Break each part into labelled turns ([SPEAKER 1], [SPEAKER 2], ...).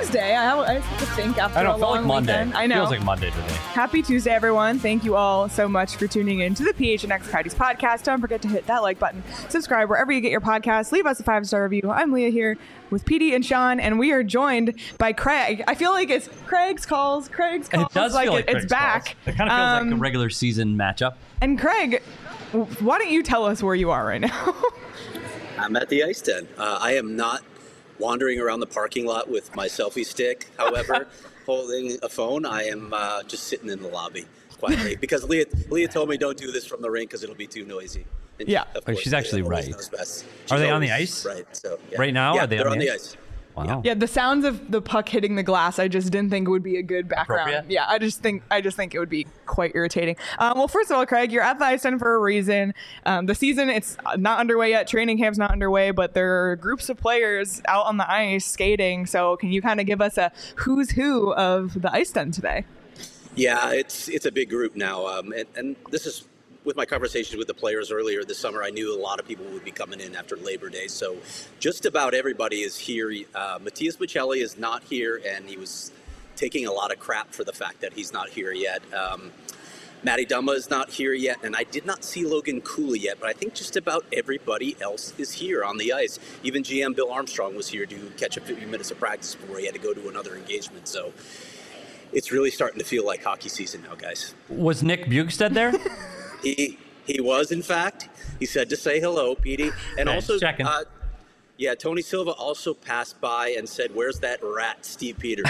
[SPEAKER 1] Tuesday. I have to think after
[SPEAKER 2] I don't
[SPEAKER 1] a
[SPEAKER 2] feel
[SPEAKER 1] long
[SPEAKER 2] like Monday.
[SPEAKER 1] weekend. I know.
[SPEAKER 2] Feels like Monday today.
[SPEAKER 1] Happy Tuesday, everyone. Thank you all so much for tuning in to the PHNX Coyotes podcast. Don't forget to hit that like button, subscribe wherever you get your podcasts, leave us a 5-star review. I'm Leah here with PD and Sean, and we are joined by Craig. I feel like it's Craig's calls.
[SPEAKER 2] It does feel like
[SPEAKER 1] it's
[SPEAKER 2] Craig's
[SPEAKER 1] back.
[SPEAKER 2] calls. It kind of feels like a regular season matchup.
[SPEAKER 1] And Craig, why don't you tell us where you are right now?
[SPEAKER 3] I'm at the Ice Den. I am not wandering around the parking lot with my selfie stick, however, holding a phone. I am just sitting in the lobby quietly because Leah told me don't do this from the rink because it'll be too noisy. And
[SPEAKER 1] yeah.
[SPEAKER 3] she's
[SPEAKER 2] actually right.
[SPEAKER 3] Are
[SPEAKER 2] they on the ice?
[SPEAKER 3] Right. So, yeah.
[SPEAKER 2] Right now?
[SPEAKER 3] Yeah,
[SPEAKER 2] are they
[SPEAKER 3] they're
[SPEAKER 2] on the ice? Wow.
[SPEAKER 1] Yeah, the sounds of the puck hitting the glass, I just didn't think it would be a good background. Yeah, I just think it would be quite irritating. Well, first of all, Craig, you're at the Ice Den for a reason. The season, it's not underway yet. Training camp's not underway, but there are groups of players out on the ice skating. So can you kind of give us a who's who of the Ice Den today?
[SPEAKER 3] Yeah, it's a big group now, and this is. With my conversations with the players earlier this summer, I knew a lot of people would be coming in after Labor Day. So just about everybody is here. Matthias Michelli is not here, and he was taking a lot of crap for the fact that he's not here yet. Matty Dumba is not here yet, and I did not see Logan Cooley yet, but I think just about everybody else is here on the ice. Even GM Bill Armstrong was here to catch a few minutes of practice before he had to go to another engagement. So it's really starting to feel like hockey season now, guys.
[SPEAKER 2] Was Nick Bjugstad there?
[SPEAKER 3] He was, in fact. He said to say hello, Petey. And also, Tony Silva also passed by and said, "Where's that rat, Steve Peters?"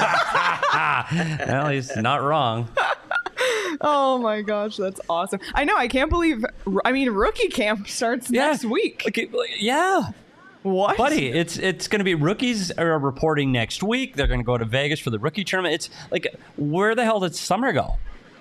[SPEAKER 2] Well, he's not wrong.
[SPEAKER 1] Oh my gosh, that's awesome. I know, I can't believe, rookie camp starts next week.
[SPEAKER 2] Yeah.
[SPEAKER 1] What?
[SPEAKER 2] Buddy, it's going to be rookies are reporting next week. They're going to go to Vegas for the rookie tournament. It's like, where the hell did summer go?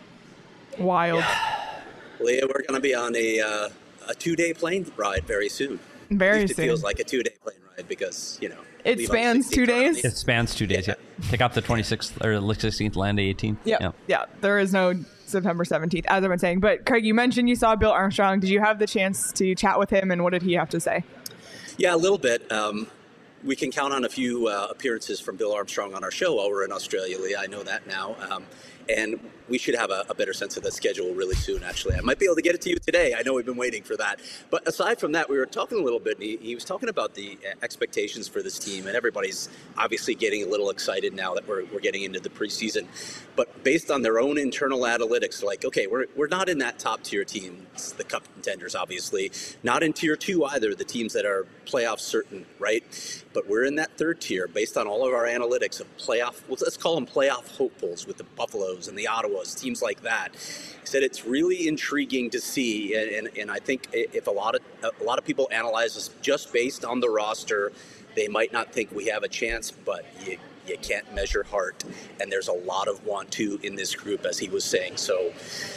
[SPEAKER 1] Wild.
[SPEAKER 3] Yeah. Leah, we're going to be on a 2-day plane ride very soon.
[SPEAKER 1] Very soon.
[SPEAKER 3] It feels like a 2-day plane ride because,
[SPEAKER 1] it spans 2 days?
[SPEAKER 2] It spans 2 days, yeah. Pick up the 26th or 16th, land the 18th.
[SPEAKER 1] Yeah, there is no September 17th, as I've been saying. But, Craig, you mentioned you saw Bill Armstrong. Did you have the chance to chat with him, and what did he have to say?
[SPEAKER 3] Yeah, a little bit. We can count on a few appearances from Bill Armstrong on our show while we're in Australia, Leah. I know that now. And we should have a better sense of the schedule really soon, actually. I might be able to get it to you today. I know we've been waiting for that. But aside from that, we were talking a little bit, and he was talking about the expectations for this team, and everybody's obviously getting a little excited now that we're getting into the preseason. But based on their own internal analytics, like, okay, we're not in that top-tier team, it's the cup contenders, obviously. Not in Tier 2 either, the teams that are playoff certain, right? But we're in that third tier based on all of our analytics of playoff, let's call them playoff hopefuls with the Buffaloes and the Ottawas, teams like that. He said it's really intriguing to see, and I think if a lot of people analyze us just based on the roster, they might not think we have a chance, but you can't measure heart, and there's a lot of want to in this group, as he was saying. So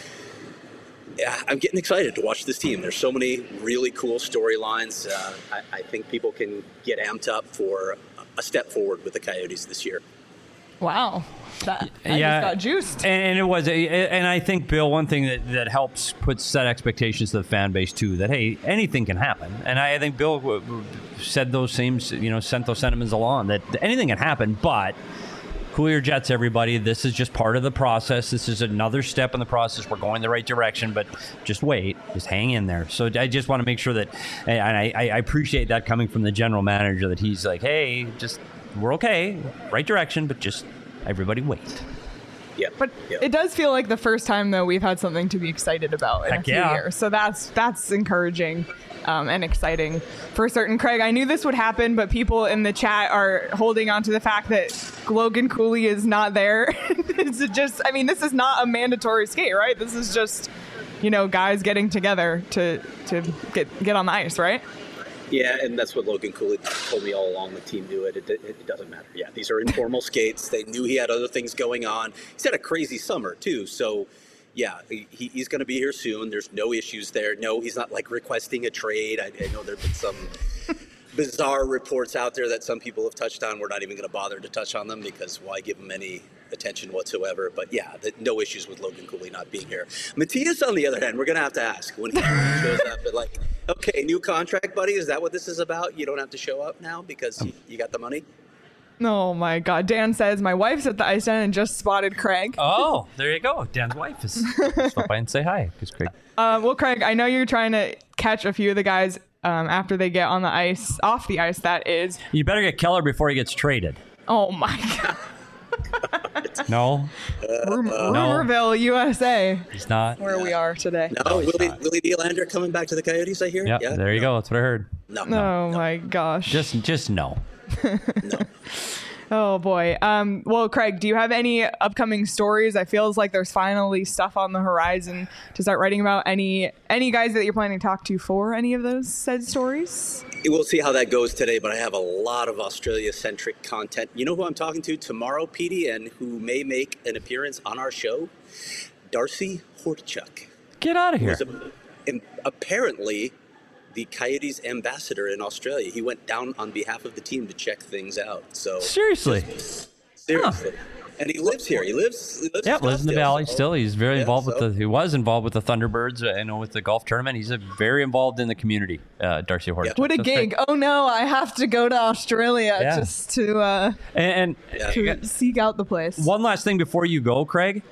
[SPEAKER 3] yeah, I'm getting excited to watch this team. There's so many really cool storylines. I think people can get amped up for a step forward with the Coyotes this year.
[SPEAKER 1] Wow. I just got juiced.
[SPEAKER 2] And it was, and I think, Bill, one thing that helps set expectations to the fan base too, that hey, anything can happen. And I think Bill said those same, sent those sentiments along, that anything can happen, but cool your jets, everybody. This is just part of the process. This is another step in the process. We're going the right direction, but just wait. Just hang in there. So I just want to make sure that, and I appreciate that coming from the general manager, that he's like, hey, we're okay, right direction, but just everybody wait.
[SPEAKER 3] Yeah.
[SPEAKER 1] But it does feel like the first time, though, we've had something to be excited about in a few years. So that's encouraging and exciting for certain. Craig, I knew this would happen, but people in the chat are holding on to the fact that Logan Cooley is not there. This is not a mandatory skate, right? This is just, guys getting together to get on the ice, right?
[SPEAKER 3] Yeah, and that's what Logan Cooley told me all along. The team knew it. It doesn't matter. Yeah, these are informal skates. They knew he had other things going on. He's had a crazy summer, too. So, yeah, he's going to be here soon. There's no issues there. No, he's not, requesting a trade. I know there have been some bizarre reports out there that some people have touched on. We're not even going to bother to touch on them because why give him any attention whatsoever. But, yeah, no issues with Logan Cooley not being here. Matthias, on the other hand, we're going to have to ask when he shows up. But, okay, new contract, buddy. Is that what this is about? You don't have to show up now because you got the money?
[SPEAKER 1] Oh my God. Dan says, my wife's at the ice den and just spotted Craig.
[SPEAKER 2] Oh, there you go. Dan's wife is stop by and say hi. Because Craig.
[SPEAKER 1] Well, Craig, I know you're trying to catch a few of the guys after they get on the ice, off the ice, that is.
[SPEAKER 2] You better get Keller before he gets traded.
[SPEAKER 1] Oh my God.
[SPEAKER 2] No.
[SPEAKER 1] Rumorville, USA.
[SPEAKER 2] He's not.
[SPEAKER 1] Where we are today.
[SPEAKER 3] No, Willie Nylander coming back to the Coyotes, I hear?
[SPEAKER 2] Yep,
[SPEAKER 3] Yeah,
[SPEAKER 2] there you go. That's what I heard.
[SPEAKER 1] No. My gosh.
[SPEAKER 2] Just no.
[SPEAKER 3] No.
[SPEAKER 1] Oh boy. Well, Craig, do you have any upcoming stories? I feels like there's finally stuff on the horizon to start writing about. Any guys that you're planning to talk to for any of those said stories?
[SPEAKER 3] We'll see how that goes today, but I have a lot of Australia-centric content. You know who I'm talking to tomorrow, Petey, and who may make an appearance on our show? Darcy Hortchuk.
[SPEAKER 2] Get out of here.
[SPEAKER 3] Apparently the Coyotes ambassador in Australia. He went down on behalf of the team to check things out. So
[SPEAKER 2] seriously.
[SPEAKER 3] Huh. And he lives here. He lives
[SPEAKER 2] in the Valley still. He's very involved he was involved with the Thunderbirds, with the golf tournament. He's very involved in the community, Darcy Hortchuk.
[SPEAKER 1] What a gig. Great. Oh no, I have to go to Australia just to to seek out the place.
[SPEAKER 2] One last thing before you go, Craig.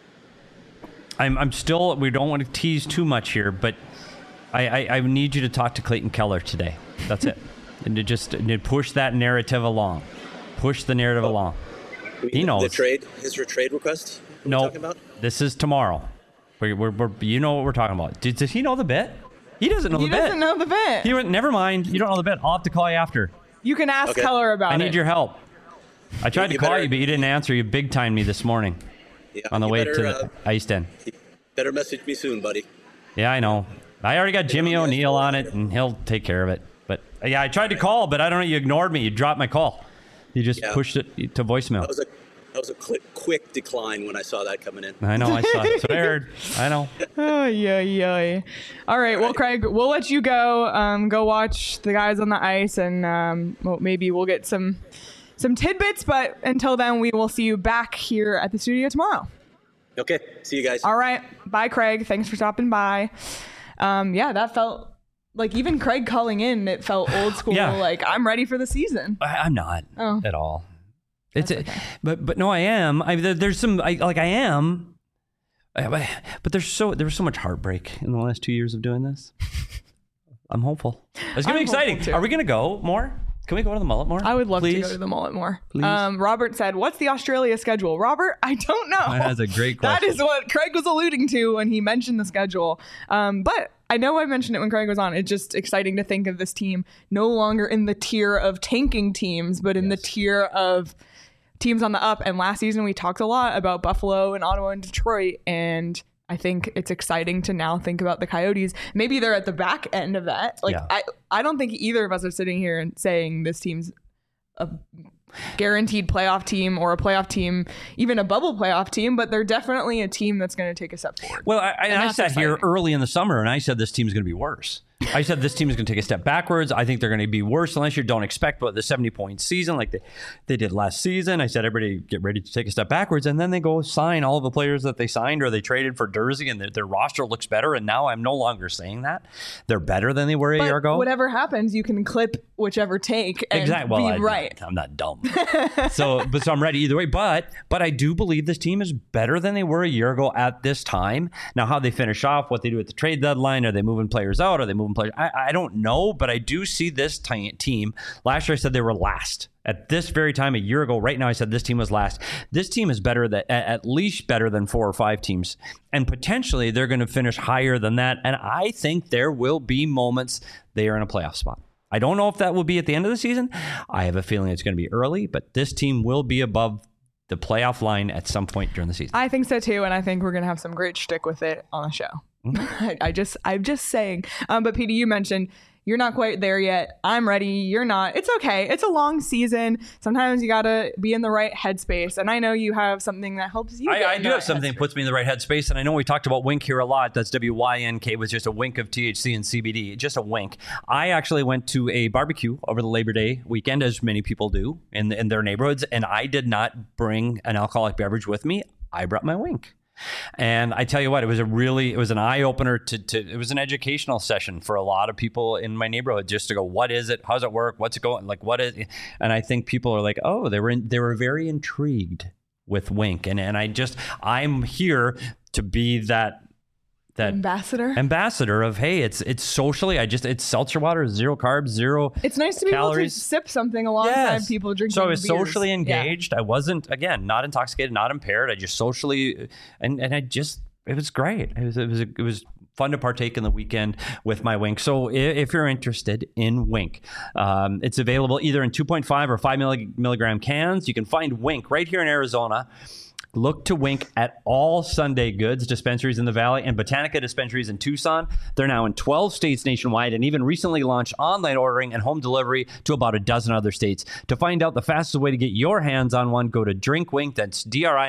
[SPEAKER 2] I'm still, we don't want to tease too much here, but I need you to talk to Clayton Keller today. That's it. And to push that narrative along. Push the narrative along. He knows.
[SPEAKER 3] His trade request?
[SPEAKER 2] No, this is tomorrow. You know what we're talking about. Does he know the bit? He doesn't know the bit.
[SPEAKER 1] He doesn't know the bit.
[SPEAKER 2] He went, never mind. You don't know the bit. I'll have to call you after.
[SPEAKER 1] You can ask Keller about it.
[SPEAKER 2] I need your help. I tried to call you, but you didn't answer. You big-timed me this morning on the way to the ice den.
[SPEAKER 3] Better message me soon, buddy.
[SPEAKER 2] Yeah, I know. I already got Jimmy O'Neill on it, and he'll take care of it. But yeah, I tried to call, but I don't know. You ignored me. You dropped my call. You just pushed it to voicemail.
[SPEAKER 3] That was a quick decline when I saw that coming in.
[SPEAKER 2] I know. I saw it. That's what I heard. I know.
[SPEAKER 1] Oh, yeah. All right. Well, Craig, we'll let you go. Go watch the guys on the ice, and maybe we'll get some tidbits. But until then, we will see you back here at the studio tomorrow.
[SPEAKER 3] Okay. See you guys.
[SPEAKER 1] All right. Bye, Craig. Thanks for stopping by. That felt like, even Craig calling in, it felt old school.
[SPEAKER 2] Yeah.
[SPEAKER 1] Like, I'm ready for the season.
[SPEAKER 2] I'm not at all. It's
[SPEAKER 1] okay.
[SPEAKER 2] But no, I am. There's some I am. But there was so much heartbreak in the last 2 years of doing this. I'm hopeful. It's gonna be exciting. Are we gonna go more? Can we go to the Mullet more?
[SPEAKER 1] I would love
[SPEAKER 2] to
[SPEAKER 1] go to the Mullet more.
[SPEAKER 2] Please.
[SPEAKER 1] Robert said, "What's the Australia schedule?" Robert, I don't know.
[SPEAKER 2] That's a great question.
[SPEAKER 1] That is what Craig was alluding to when he mentioned the schedule. But I know I mentioned it when Craig was on. It's just exciting to think of this team no longer in the tier of tanking teams, but in the tier of teams on the up. And last season we talked a lot about Buffalo and Ottawa and Detroit, and I think it's exciting to now think about the Coyotes. Maybe they're at the back end of that. I don't think either of us are sitting here and saying this team's a guaranteed playoff team or a playoff team, even a bubble playoff team, but they're definitely a team that's going to take a step forward.
[SPEAKER 2] Well, I sat here early in the summer and I said this team's going to be worse. I said this team is going to take a step backwards. I think they're going to be worse unless you don't expect the 70-point season like they did last season. I said everybody get ready to take a step backwards, and then they go sign all of the players that they signed or they traded for Dursey, and their roster looks better. And now I'm no longer saying that. They're better than they were a year ago.
[SPEAKER 1] Whatever happens, you can clip whichever take and be right.
[SPEAKER 2] I'm not dumb. So I'm ready either way. But I do believe this team is better than they were a year ago at this time. Now, how they finish off, what they do at the trade deadline, are they moving players out? Are they moving players? I don't know, but I do see this team. Last year I said they were last. At this very time a year ago, right now I said this team was last. This team is better, at least better than 4 or 5 teams. And potentially they're going to finish higher than that. And I think there will be moments they are in a playoff spot. I don't know if that will be at the end of the season. I have a feeling it's going to be early, but this team will be above the playoff line at some point during the season.
[SPEAKER 1] I think so too, and I think we're going to have some great shtick with it on the show. I'm just saying. But Petey, you mentioned you're not quite there yet. I'm ready. You're not. It's okay. It's a long season. Sometimes you got to be in the right headspace. And I know you have something that helps you.
[SPEAKER 2] I do have something that puts me in the right headspace. And I know we talked about wink here a lot. That's WYNK, with just a wink of THC and CBD. Just a wink. I actually went to a barbecue over the Labor Day weekend, as many people do in their neighborhoods. And I did not bring an alcoholic beverage with me. I brought my wink. And I tell you what, it was an eye opener it was an educational session for a lot of people in my neighborhood, just to go, what is it? How's it work? What's it going? Like, what is it? And I think people are like, oh, they were very intrigued with Wink. And I'm here to be that ambassador of, hey, it's socially, it's seltzer water, 0 carbs, 0
[SPEAKER 1] it's nice to be able to sip something alongside people drinking
[SPEAKER 2] so I was
[SPEAKER 1] beers.
[SPEAKER 2] Socially engaged. I wasn't, again, not intoxicated, not impaired. I just socially, and it was great. It was fun to partake in the weekend with my Wink. So if you're interested in Wink, it's available either in 2.5 or 5 milligram cans. You can find Wink right here in Arizona. Look to Wink at all Sunday Goods dispensaries in the Valley and Botanica dispensaries in Tucson. They're now in 12 states nationwide and even recently launched online ordering and home delivery to about a dozen other states. To find out the fastest way to get your hands on one, go to DrinkWink, that's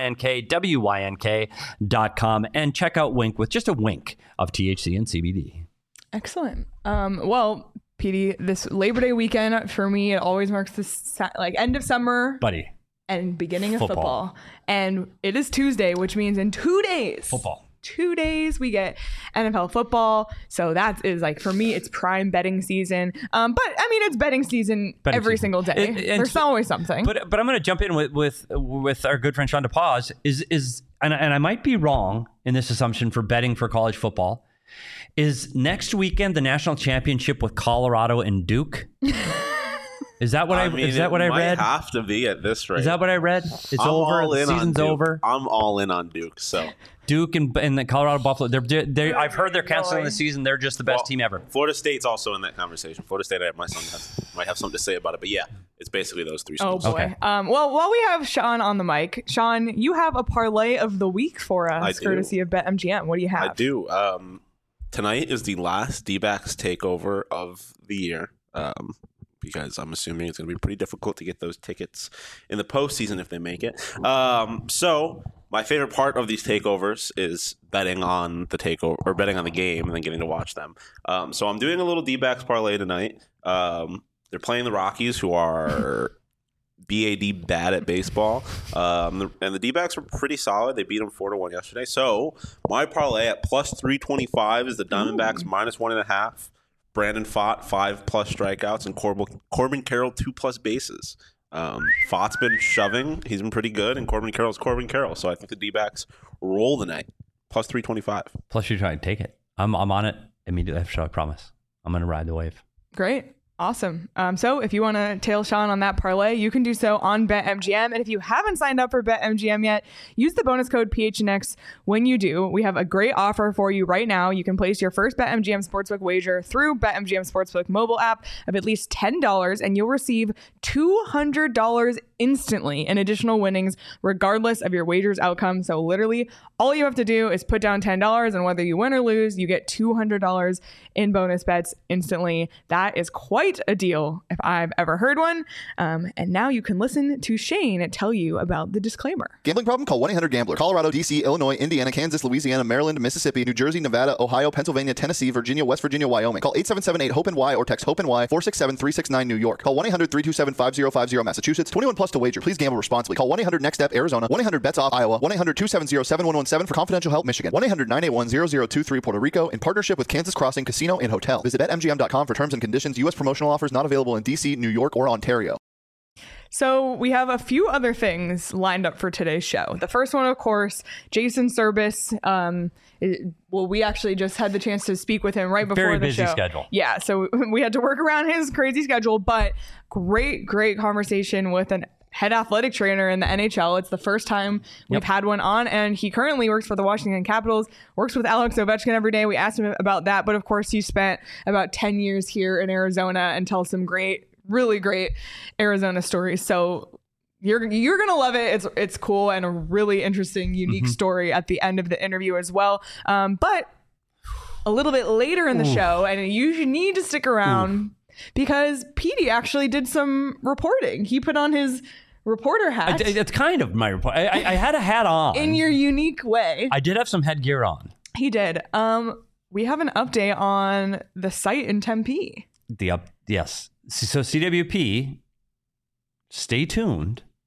[SPEAKER 2] DrinkWYNK.com, and check out Wink with just a wink of THC and CBD.
[SPEAKER 1] Excellent. Well, Petey, this Labor Day weekend for me, it always marks this end of summer.
[SPEAKER 2] Buddy.
[SPEAKER 1] And beginning of football. And it is Tuesday, which means in 2 days.
[SPEAKER 2] Football.
[SPEAKER 1] 2 days we get NFL football. So that is for me, it's prime betting season. But I mean, it's betting season every single day. There's always something.
[SPEAKER 2] But I'm going to jump in with our good friend Sean DePaz and I might be wrong in this assumption for betting for college football. Is next weekend the national championship with Colorado and Duke? Is that what I read?
[SPEAKER 4] It might have to be at this rate.
[SPEAKER 2] Is that what I read? It's over. The season's over.
[SPEAKER 4] I'm all in on Duke. So
[SPEAKER 2] Duke and the Colorado Buffalo. I've heard they're canceling the season. They're just the best team ever.
[SPEAKER 4] Florida State's also in that conversation. Florida State, my son might have something to say about it. But yeah, it's basically those three schools.
[SPEAKER 1] Oh boy. Okay. Well, while we have Sean on the mic, Sean, you have a parlay of the week for us, courtesy of BetMGM. What do you have?
[SPEAKER 4] I do. Tonight is the last D-backs takeover of the year. Because I'm assuming it's going to be pretty difficult to get those tickets in the postseason if they make it. So my favorite part of these takeovers is betting on the takeover or betting on the game and then getting to watch them. So I'm doing a little D-backs parlay tonight. They're playing the Rockies, who are bad at baseball. And the D-backs were pretty solid. They beat them 4-1 yesterday. So my parlay at plus 325 is the Diamondbacks minus 1.5. Brandon Pfaadt, 5+ strikeouts, and Corbin Carroll, 2+ bases. Pfaadt's been shoving. He's been pretty good, and Corbin Carroll's Corbin Carroll. So I think the D-backs roll the night. Plus 325.
[SPEAKER 2] Plus you're trying to take it. I'm on it immediately after, I promise. I'm going to ride the wave.
[SPEAKER 1] Great. Awesome. So if you want to tail Sean on that parlay, you can do so on BetMGM. And if you haven't signed up for BetMGM yet, use the bonus code PHNX when you do. We have a great offer for you right now. You can place your first BetMGM Sportsbook wager through BetMGM Sportsbook mobile app of at least $10, and you'll receive $200 instantly in additional winnings, regardless of your wager's outcome. So literally, all you have to do is put down $10, and whether you win or lose, you get $200 in bonus bets instantly. That is quite a deal if I've ever heard one. And now you can listen to Shane tell you about the disclaimer.
[SPEAKER 5] Gambling problem? Call 1-800-GAMBLER. Colorado, D.C., Illinois, Indiana, Kansas, Louisiana, Maryland, Mississippi, New Jersey, Nevada, Ohio, Pennsylvania, Tennessee, Virginia, West Virginia, Wyoming. Call 877-8-HOPE-NY or text HOPE-NY 467-369 New York. Call 1-800-327-5050 Massachusetts. 21 plus to wager. Please gamble responsibly. Call 1-800-NEXT-STEP Arizona. 1-800-BETS-OFF Iowa. 1-800-270-7117 for confidential help Michigan. 1-800-981-0023 Puerto Rico in partnership with Kansas Crossing Casino and Hotel. Visit BetMGM.com for terms and conditions. U.S. promotional offers not available in D.C., New York, or Ontario.
[SPEAKER 1] So we have a few other things lined up for today's show. The first one, of course, Jason Service. We actually just had the chance to speak with him right before the show.
[SPEAKER 2] Very busy schedule.
[SPEAKER 1] Yeah, so we had to work around his crazy schedule, but great conversation with an head athletic trainer in the NHL. It's the first time we've had one on, and he currently works for the Washington Capitals, works with Alex Ovechkin every day. We asked him about that, but of course he spent about 10 years here in Arizona and tells some really great Arizona stories. So you're gonna love it. It's cool and a really interesting, unique story at the end of the interview as well. But a little bit later in the show, and you need to stick around because Petey actually did some reporting. He put on his reporter hat.
[SPEAKER 2] It's kind of my report. I had a hat on
[SPEAKER 1] in your unique way.
[SPEAKER 2] I did have some headgear on.
[SPEAKER 1] He did. We have an update on the site in Tempe.
[SPEAKER 2] Yes. So CWP, stay tuned.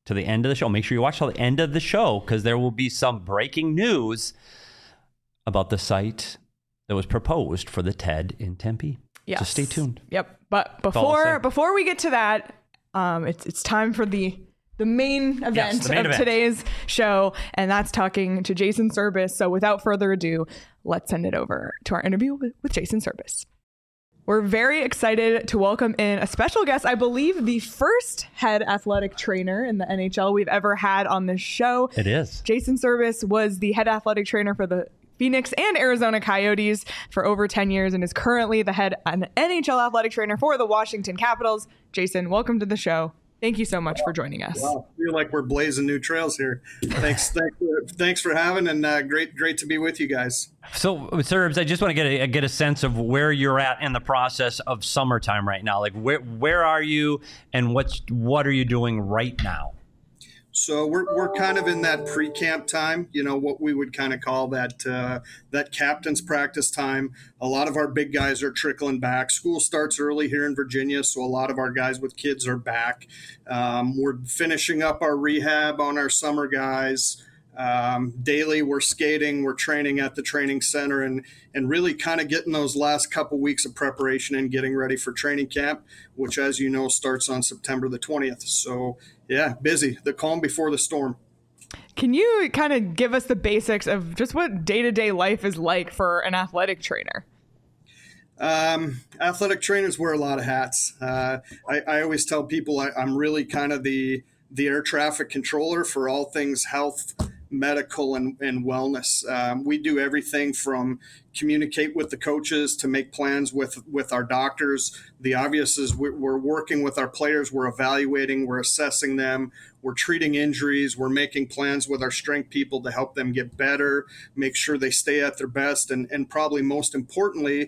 [SPEAKER 2] to the end of the show. Make sure you watch till the end of the show because there will be some breaking news about the site that was proposed for the TED in Tempe.
[SPEAKER 1] Yes.
[SPEAKER 2] So stay tuned.
[SPEAKER 1] Yep. But before we get to that, it's time for the main event of today's show, and that's talking to Jason Serbis. So without further ado, let's send it over to our interview with Jason Serbis. We're very excited to welcome in a special guest, I believe the first head athletic trainer in the NHL we've ever had on this show.
[SPEAKER 2] It is.
[SPEAKER 1] Jason Serbis was the head athletic trainer for the Phoenix and Arizona Coyotes for over 10 years and is currently the head NHL athletic trainer for the Washington Capitals. Jason, welcome to the show. Thank you so much for joining us.
[SPEAKER 6] Wow, I feel like we're blazing new trails here. Thanks for having, and great to be with you guys.
[SPEAKER 2] So, Serbs, I just want to get a sense of where you're at in the process of summertime right now. Like, where are you, and what are you doing right now?
[SPEAKER 6] So we're kind of in that pre-camp time, what we would kind of call that captain's practice time. A lot of our big guys are trickling back. School starts early here in Virginia, so a lot of our guys with kids are back. We're finishing up our rehab on our summer guys. Daily, we're skating, we're training at the training center, and really kind of getting those last couple weeks of preparation and getting ready for training camp, which, as you know, starts on September the 20th. So, yeah, busy. The calm before the storm.
[SPEAKER 1] Can you kind of give us the basics of just what day-to-day life is like for an athletic trainer?
[SPEAKER 6] Athletic trainers wear a lot of hats. I always tell people I'm really kind of the air traffic controller for all things health, medical, and wellness. We do everything from communicate with the coaches to make plans with our doctors. The obvious is we're working with our players. We're evaluating, we're assessing them. We're treating injuries. We're making plans with our strength people to help them get better, make sure they stay at their best. And probably most importantly,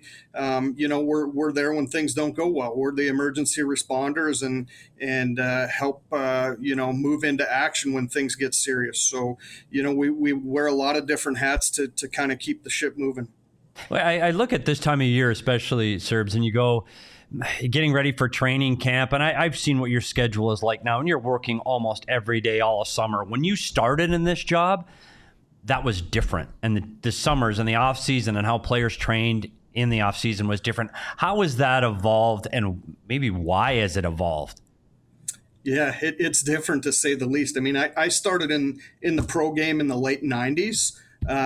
[SPEAKER 6] we're there when things don't go well. We're the emergency responders and help, move into action when things get serious. So, we wear a lot of different hats to kind of keep the ship moving.
[SPEAKER 2] Well, I look at this time of year, especially, Serbs, and you go getting ready for training camp. And I've seen what your schedule is like now, and you're working almost every day all of summer. When you started in this job, that was different. And the summers and the off season and how players trained in the off season was different. How has that evolved, and maybe why has it evolved?
[SPEAKER 6] Yeah, it's different to say the least. I mean, I started in the pro game in the late 90s.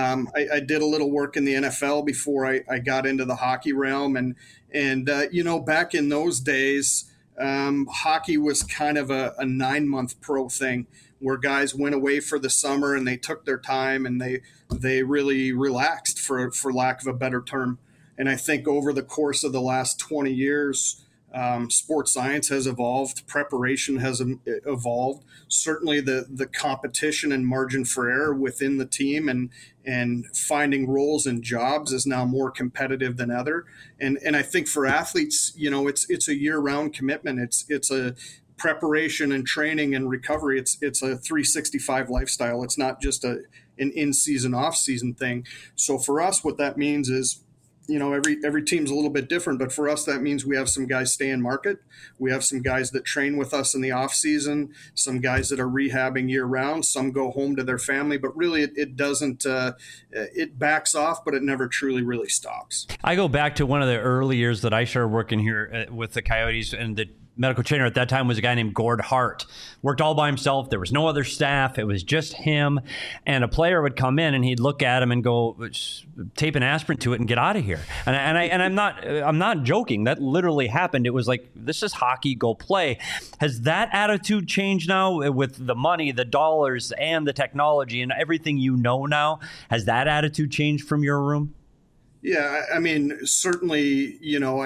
[SPEAKER 6] I did a little work in the NFL before I got into the hockey realm. And back in those days, hockey was kind of a 9-month pro thing where guys went away for the summer and they took their time and they really relaxed, for lack of a better term. And I think over the course of the last 20 years, sports science has evolved, preparation has evolved. Certainly the competition and margin for error within the team and finding roles and jobs is now more competitive than ever. And I think for athletes, it's a year-round commitment. It's a preparation and training and recovery. It's a 365 lifestyle. It's not just an in-season, off-season thing. So for us, what that means is, every team's a little bit different, but for us, that means we have some guys stay in market. We have some guys that train with us in the off season, some guys that are rehabbing year round, some go home to their family, but really it doesn't, it backs off, but it never truly really stops.
[SPEAKER 2] I go back to one of the early years that I started working here with the Coyotes, and the medical trainer at that time was a guy named Gord Hart. Worked all by himself. There was no other staff. It was just him. And a player would come in and he'd look at him and go, tape an aspirin to it and get out of here. And I'm not joking. That literally happened. It was like, this is hockey, go play. Has that attitude changed now with the money, the dollars, and the technology and everything you know now? Has that attitude changed from your room?
[SPEAKER 6] Yeah, I mean, certainly,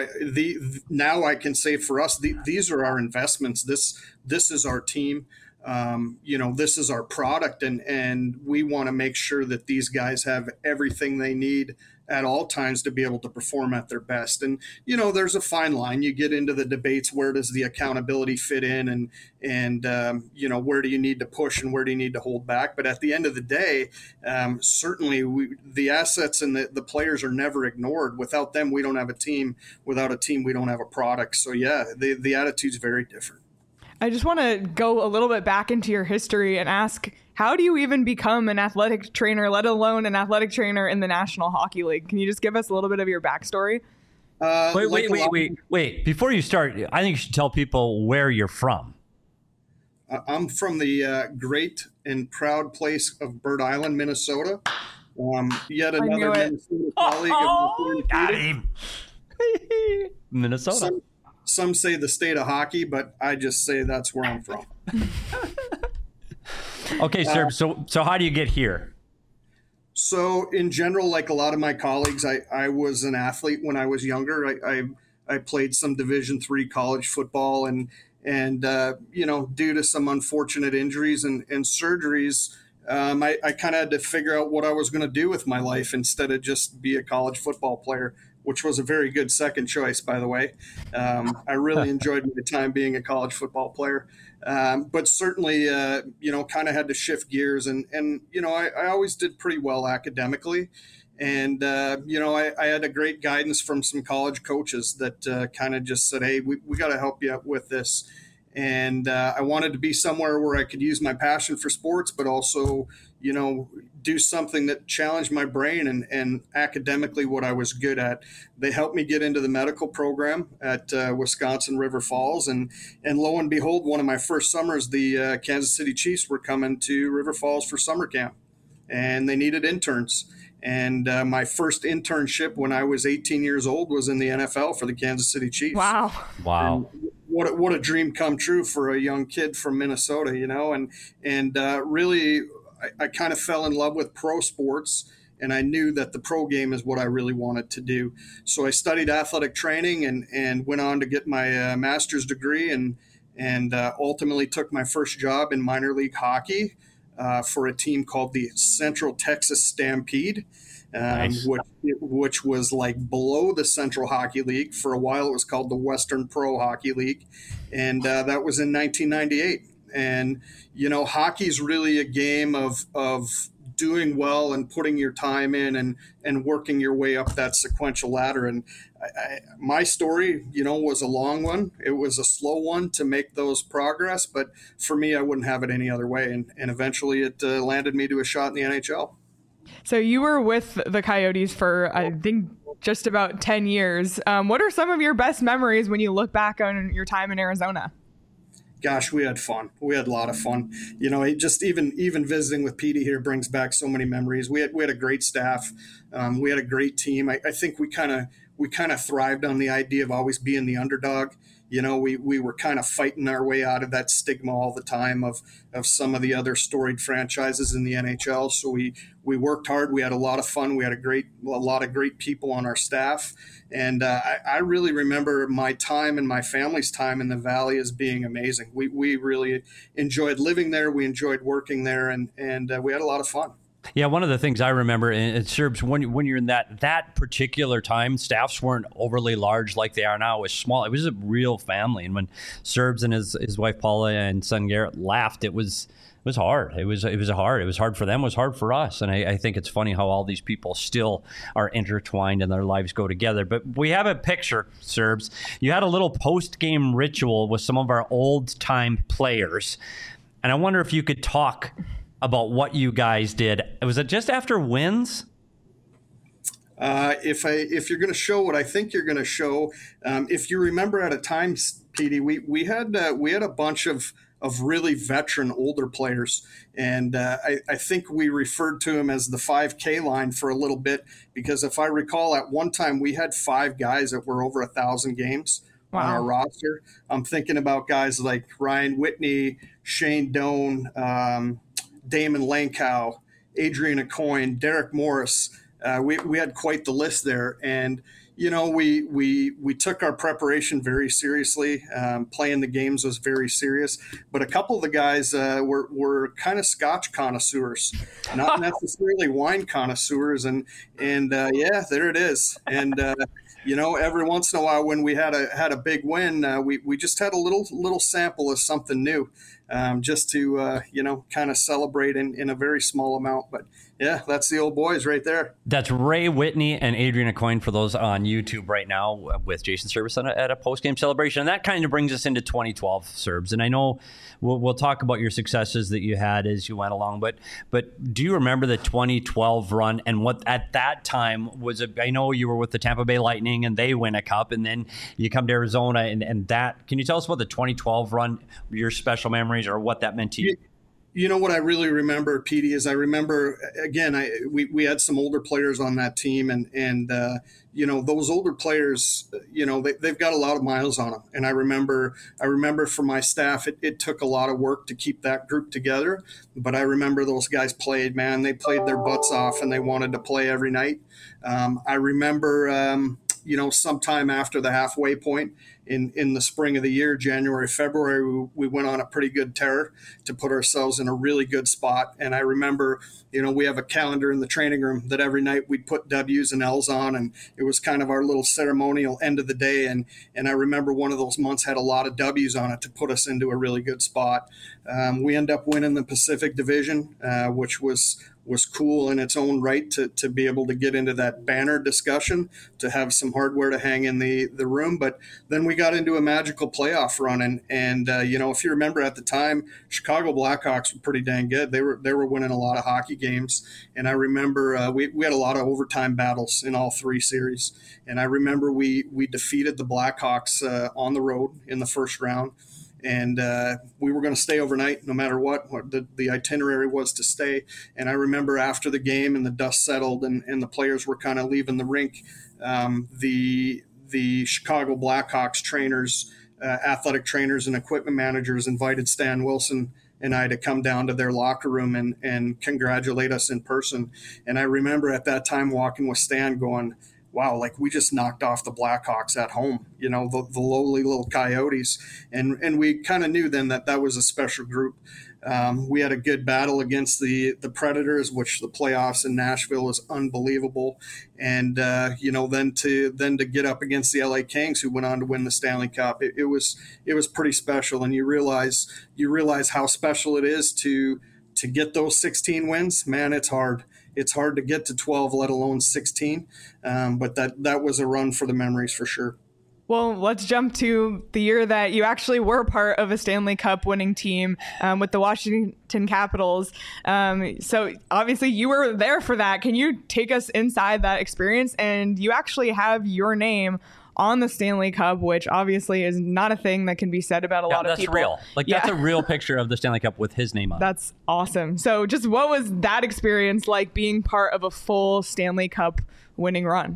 [SPEAKER 6] now I can say for us, these are our investments. This is our team. This is our product, and we want to make sure that these guys have everything they need at all times to be able to perform at their best. And, there's a fine line. You get into the debates, where does the accountability fit in and where do you need to push and where do you need to hold back? But at the end of the day, certainly the assets and the players are never ignored. Without them, we don't have a team. Without a team, we don't have a product. So, yeah, the attitude's very different.
[SPEAKER 1] I just want to go a little bit back into your history and ask, how do you even become an athletic trainer, let alone an athletic trainer in the National Hockey League? Can you just give us a little bit of your backstory?
[SPEAKER 2] Wait. Before you start, I think you should tell people where you're from.
[SPEAKER 6] I'm from the great and proud place of Bird Island, Minnesota. Yet another Minnesota colleague.
[SPEAKER 2] Got him. Minnesota.
[SPEAKER 6] Some say the state of hockey, but I just say that's where I'm from.
[SPEAKER 2] Okay, sir. So how do you get here?
[SPEAKER 6] So in general, like a lot of my colleagues, I was an athlete when I was younger. I played some Division III college football, and due to some unfortunate injuries and surgeries, I kind of had to figure out what I was going to do with my life instead of just be a college football player, which was a very good second choice, by the way. I really enjoyed my time being a college football player, but certainly, kind of had to shift gears. And I always did pretty well academically. And, I had a great guidance from some college coaches that kind of just said, hey, we got to help you out with this. And I wanted to be somewhere where I could use my passion for sports, but also, do something that challenged my brain and academically what I was good at. They helped me get into the medical program at Wisconsin River Falls. And lo and behold, one of my first summers, the Kansas City Chiefs were coming to River Falls for summer camp, and they needed interns. And my first internship when I was 18 years old was in the NFL for the Kansas City Chiefs.
[SPEAKER 1] Wow.
[SPEAKER 6] And what a dream come true for a young kid from Minnesota, and really I kind of fell in love with pro sports, and I knew that the pro game is what I really wanted to do. So I studied athletic training and went on to get my master's degree and ultimately took my first job in minor league hockey for a team called the Central Texas Stampede.
[SPEAKER 2] Nice.
[SPEAKER 6] which was like below the Central Hockey League. For a while, it was called the Western Pro Hockey League, and that was in 1998. And hockey's really a game of doing well and putting your time in and working your way up that sequential ladder. And my story, was a long one. It was a slow one to make those progress, but for me, I wouldn't have it any other way. And eventually, it landed me to a shot in the NHL.
[SPEAKER 1] So you were with the Coyotes for, I think, just about 10 years. What are some of your best memories when you look back on your time in Arizona?
[SPEAKER 6] Gosh, we had fun. We had a lot of fun. Just even visiting with Petey here brings back so many memories. We had a great staff. We had a great team. I think we kind of thrived on the idea of always being the underdog. We were kind of fighting our way out of that stigma all the time of some of the other storied franchises in the NHL. So we worked hard. We had a lot of fun. We had a lot of great people on our staff. And I really remember my time and my family's time in the Valley as being amazing. We really enjoyed living there. We enjoyed working there, and we had a lot of fun.
[SPEAKER 2] Yeah, one of the things I remember in Serbs, when you're in that particular time, staffs weren't overly large like they are now. It was small. It was a real family. And when Serbs and his wife Paula and son Garrett left, it was hard. It was hard. It was hard for them. It was hard for us. And I think it's funny how all these people still are intertwined and their lives go together. But we have a picture, Serbs. You had a little post-game ritual with some of our old-time players. And I wonder if you could talk about what you guys did. Was it just after wins?
[SPEAKER 6] If you're going to show what I think you're going to show, if you remember at a time, Petey, we had a bunch of really veteran older players, and I think we referred to them as the 5K line for a little bit, because if I recall, at one time we had 5 guys that were over 1,000 games. Wow. On our roster. I'm thinking about guys like Ryan Whitney, Shane Doan, Damon Lankow, Adrian Aucoin, Derek Morris. We had quite the list there. And, we took our preparation very seriously. Playing the games was very serious. But a couple of the guys were kind of Scotch connoisseurs, not necessarily wine connoisseurs. And yeah, there it is. And, every once in a while when we had a big win, we just had a little sample of something new. just to, kind of celebrate in a very small amount. But yeah, that's the old boys right there.
[SPEAKER 2] That's Ray Whitney and Adrian Aucoin for those on YouTube right now with Jason Service at a post-game celebration. And that kind of brings us into 2012, Serbs. And I know we'll talk about your successes that you had as you went along, but do you remember the 2012 run and what at that time was I know you were with the Tampa Bay Lightning and they win a cup, and then you come to Arizona and that. Can you tell us about the 2012 run, your special memories, or what that meant to you?
[SPEAKER 6] You know what I really remember, Petey, is I remember, again, we had some older players on that team, and those older players, they've got a lot of miles on them. And I remember for my staff, it took a lot of work to keep that group together. But I remember those guys played, man. They played their butts off, and they wanted to play every night. I remember, sometime after the halfway point, in the spring of the year, January, February, we went on a pretty good tear to put ourselves in a really good spot. And I remember, we have a calendar in the training room that every night we'd put W's and L's on, and it was kind of our little ceremonial end of the day. And I remember one of those months had a lot of W's on it to put us into a really good spot. We end up winning the Pacific Division, which was cool in its own right to be able to get into that banner discussion, to have some hardware to hang in the room. But then we got into a magical playoff run. And if you remember at the time, Chicago Blackhawks were pretty dang good. They were winning a lot of hockey games. And I remember we had a lot of overtime battles in all three series. And I remember we defeated the Blackhawks on the road in the first round. And we were going to stay overnight no matter what the itinerary was to stay. And I remember after the game and the dust settled and the players were kind of leaving the rink, the Chicago Blackhawks trainers, athletic trainers and equipment managers invited Stan Wilson and I to come down to their locker room and congratulate us in person. And I remember at that time walking with Stan going, wow, like we just knocked off the Blackhawks at home, the lowly little Coyotes. And we kind of knew then that was a special group. We had a good battle against the Predators, which the playoffs in Nashville was unbelievable. And, then to get up against the LA Kings, who went on to win the Stanley Cup, it was pretty special. And you realize how special it is to get those 16 wins. Man, it's hard. It's hard to get to 12, let alone 16. But that was a run for the memories for sure.
[SPEAKER 1] Well, let's jump to the year that you actually were part of a Stanley Cup winning team with the Washington Capitals. So obviously you were there for that. Can you take us inside that experience? And you actually have your name on the Stanley Cup, which obviously is not a thing that can be said about a lot of people.
[SPEAKER 2] That's real. That's a real picture of the Stanley Cup with his name on it.
[SPEAKER 1] That's awesome. So just what was that experience like, being part of a full Stanley Cup winning run?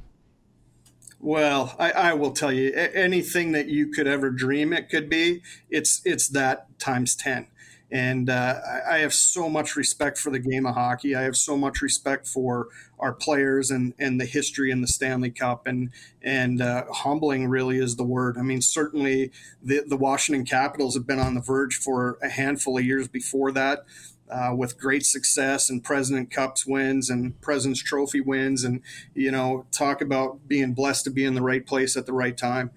[SPEAKER 6] Well, I will tell you, anything that you could ever dream it could be, it's that times 10. And I have so much respect for the game of hockey. I have so much respect for our players and the history in the Stanley Cup. And humbling really is the word. I mean, certainly the Washington Capitals have been on the verge for a handful of years before that. With great success and President Cups wins and President's Trophy wins, and talk about being blessed to be in the right place at the right time.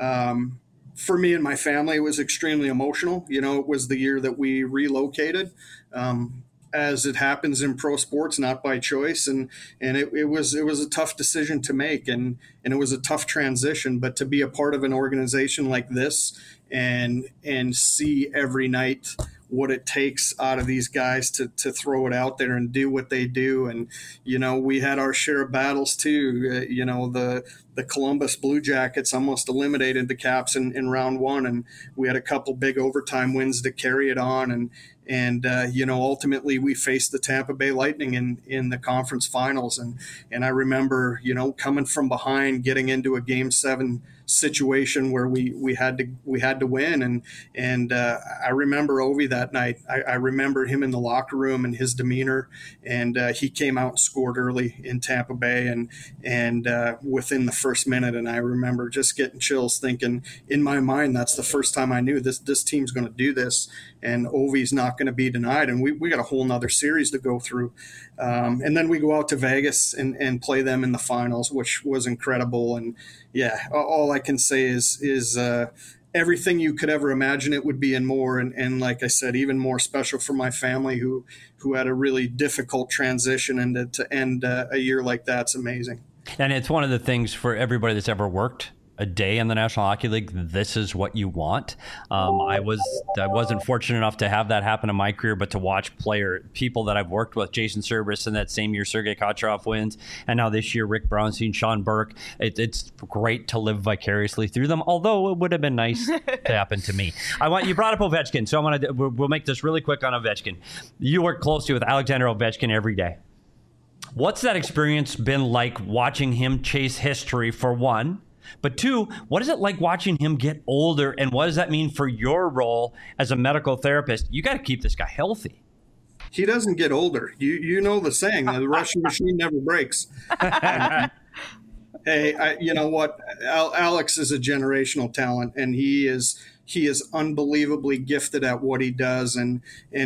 [SPEAKER 6] For me and my family, it was extremely emotional. It was the year that we relocated, as it happens in pro sports, not by choice, and it was a tough decision to make, and it was a tough transition. But to be a part of an organization like this and see every night what it takes out of these guys to throw it out there and do what they do. And, we had our share of battles too. The Columbus Blue Jackets almost eliminated the Caps in round one. And we had a couple big overtime wins to carry it on. And ultimately we faced the Tampa Bay Lightning in the conference finals. And I remember, coming from behind, getting into a Game 7 situation where we had to win. And I remember Ovi that night. I remember him in the locker room and his demeanor. And he came out and scored early in Tampa Bay and within the first minute. And I remember just getting chills, thinking in my mind, that's the first time I knew this team's going to do this. And Ovi's not going to be denied. And we got a whole nother series to go through. And then we go out to Vegas and play them in the finals, which was incredible. And yeah, all I can say is everything you could ever imagine it would be and more. And like I said, even more special for my family who had a really difficult transition, and to end a year like that's amazing.
[SPEAKER 2] And it's one of the things for everybody that's ever worked a day in the National Hockey League, this is what you want. I wasn't fortunate enough to have that happen in my career, but to watch people that I've worked with, Jason Servis, and that same year Sergei Kocherov wins, and now this year Rick Brownstein, Sean Burke. It's great to live vicariously through them. Although it would have been nice to happen to me. You brought up Ovechkin, so we'll make this really quick on Ovechkin. You work closely with Alexander Ovechkin every day. What's that experience been like watching him chase history, for one? But two, what is it like watching him get older, and what does that mean for your role as a medical therapist? You got to keep this guy healthy.
[SPEAKER 6] He doesn't get older. You know the saying, the Russian machine never breaks. Hey, you know what? Alex is a generational talent, and he is unbelievably gifted at what he does, and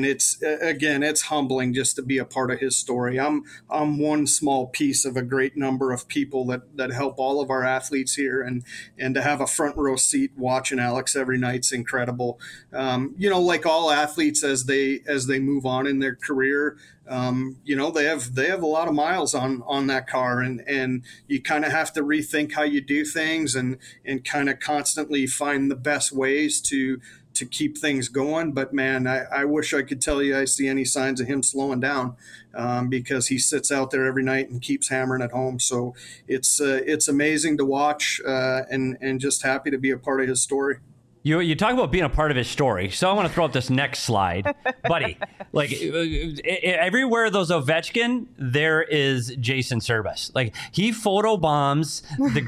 [SPEAKER 6] it's humbling just to be a part of his story. I'm one small piece of a great number of people that help all of our athletes here, and to have a front row seat watching Alex every night's incredible. Like all athletes, as they move on in their career, they have a lot of miles on that car, and you kind of have to rethink how you do things, and kind of constantly find the best ways to keep things going. But man, I wish I could tell you I see any signs of him slowing down, because he sits out there every night and keeps hammering at home. So it's amazing to watch, and just happy to be a part of his story.
[SPEAKER 2] You talk about being a part of his story, so I want to throw up this next slide, buddy. Like everywhere there's Ovechkin, there is Jason Servis. Like he photobombs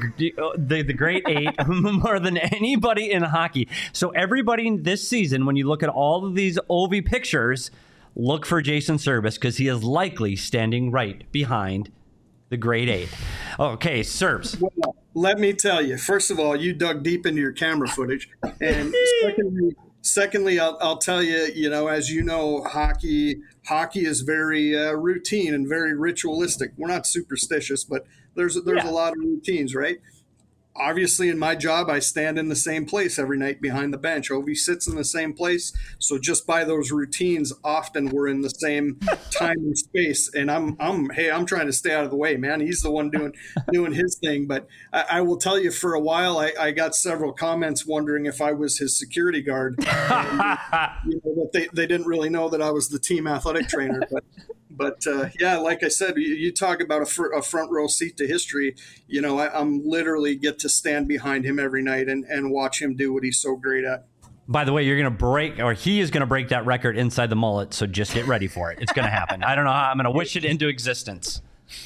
[SPEAKER 2] the great eight more than anybody in hockey. So everybody this season, when you look at all of these Ovi pictures, look for Jason Servis, because he is likely standing right behind the great eight. Okay, Serbs.
[SPEAKER 6] Well, let me tell you, first of all, you dug deep into your camera footage. And secondly, I'll tell you, as you know, hockey is very routine and very ritualistic. We're not superstitious, but there's a lot of routines, right? Obviously, in my job, I stand in the same place every night behind the bench. Ovi sits in the same place. So just by those routines, often we're in the same time and space. And I'm trying to stay out of the way, man. He's the one doing his thing. But I will tell you, for a while, I got several comments wondering if I was his security guard. And, that they didn't really know that I was the team athletic trainer. But like I said, you talk about a front row seat to history. I'm literally get to stand behind him every night and watch him do what he's so great at.
[SPEAKER 2] By the way, he is going to break that record inside the mullet. So just get ready for it. It's going to happen. I don't know how I'm going to wish it into existence.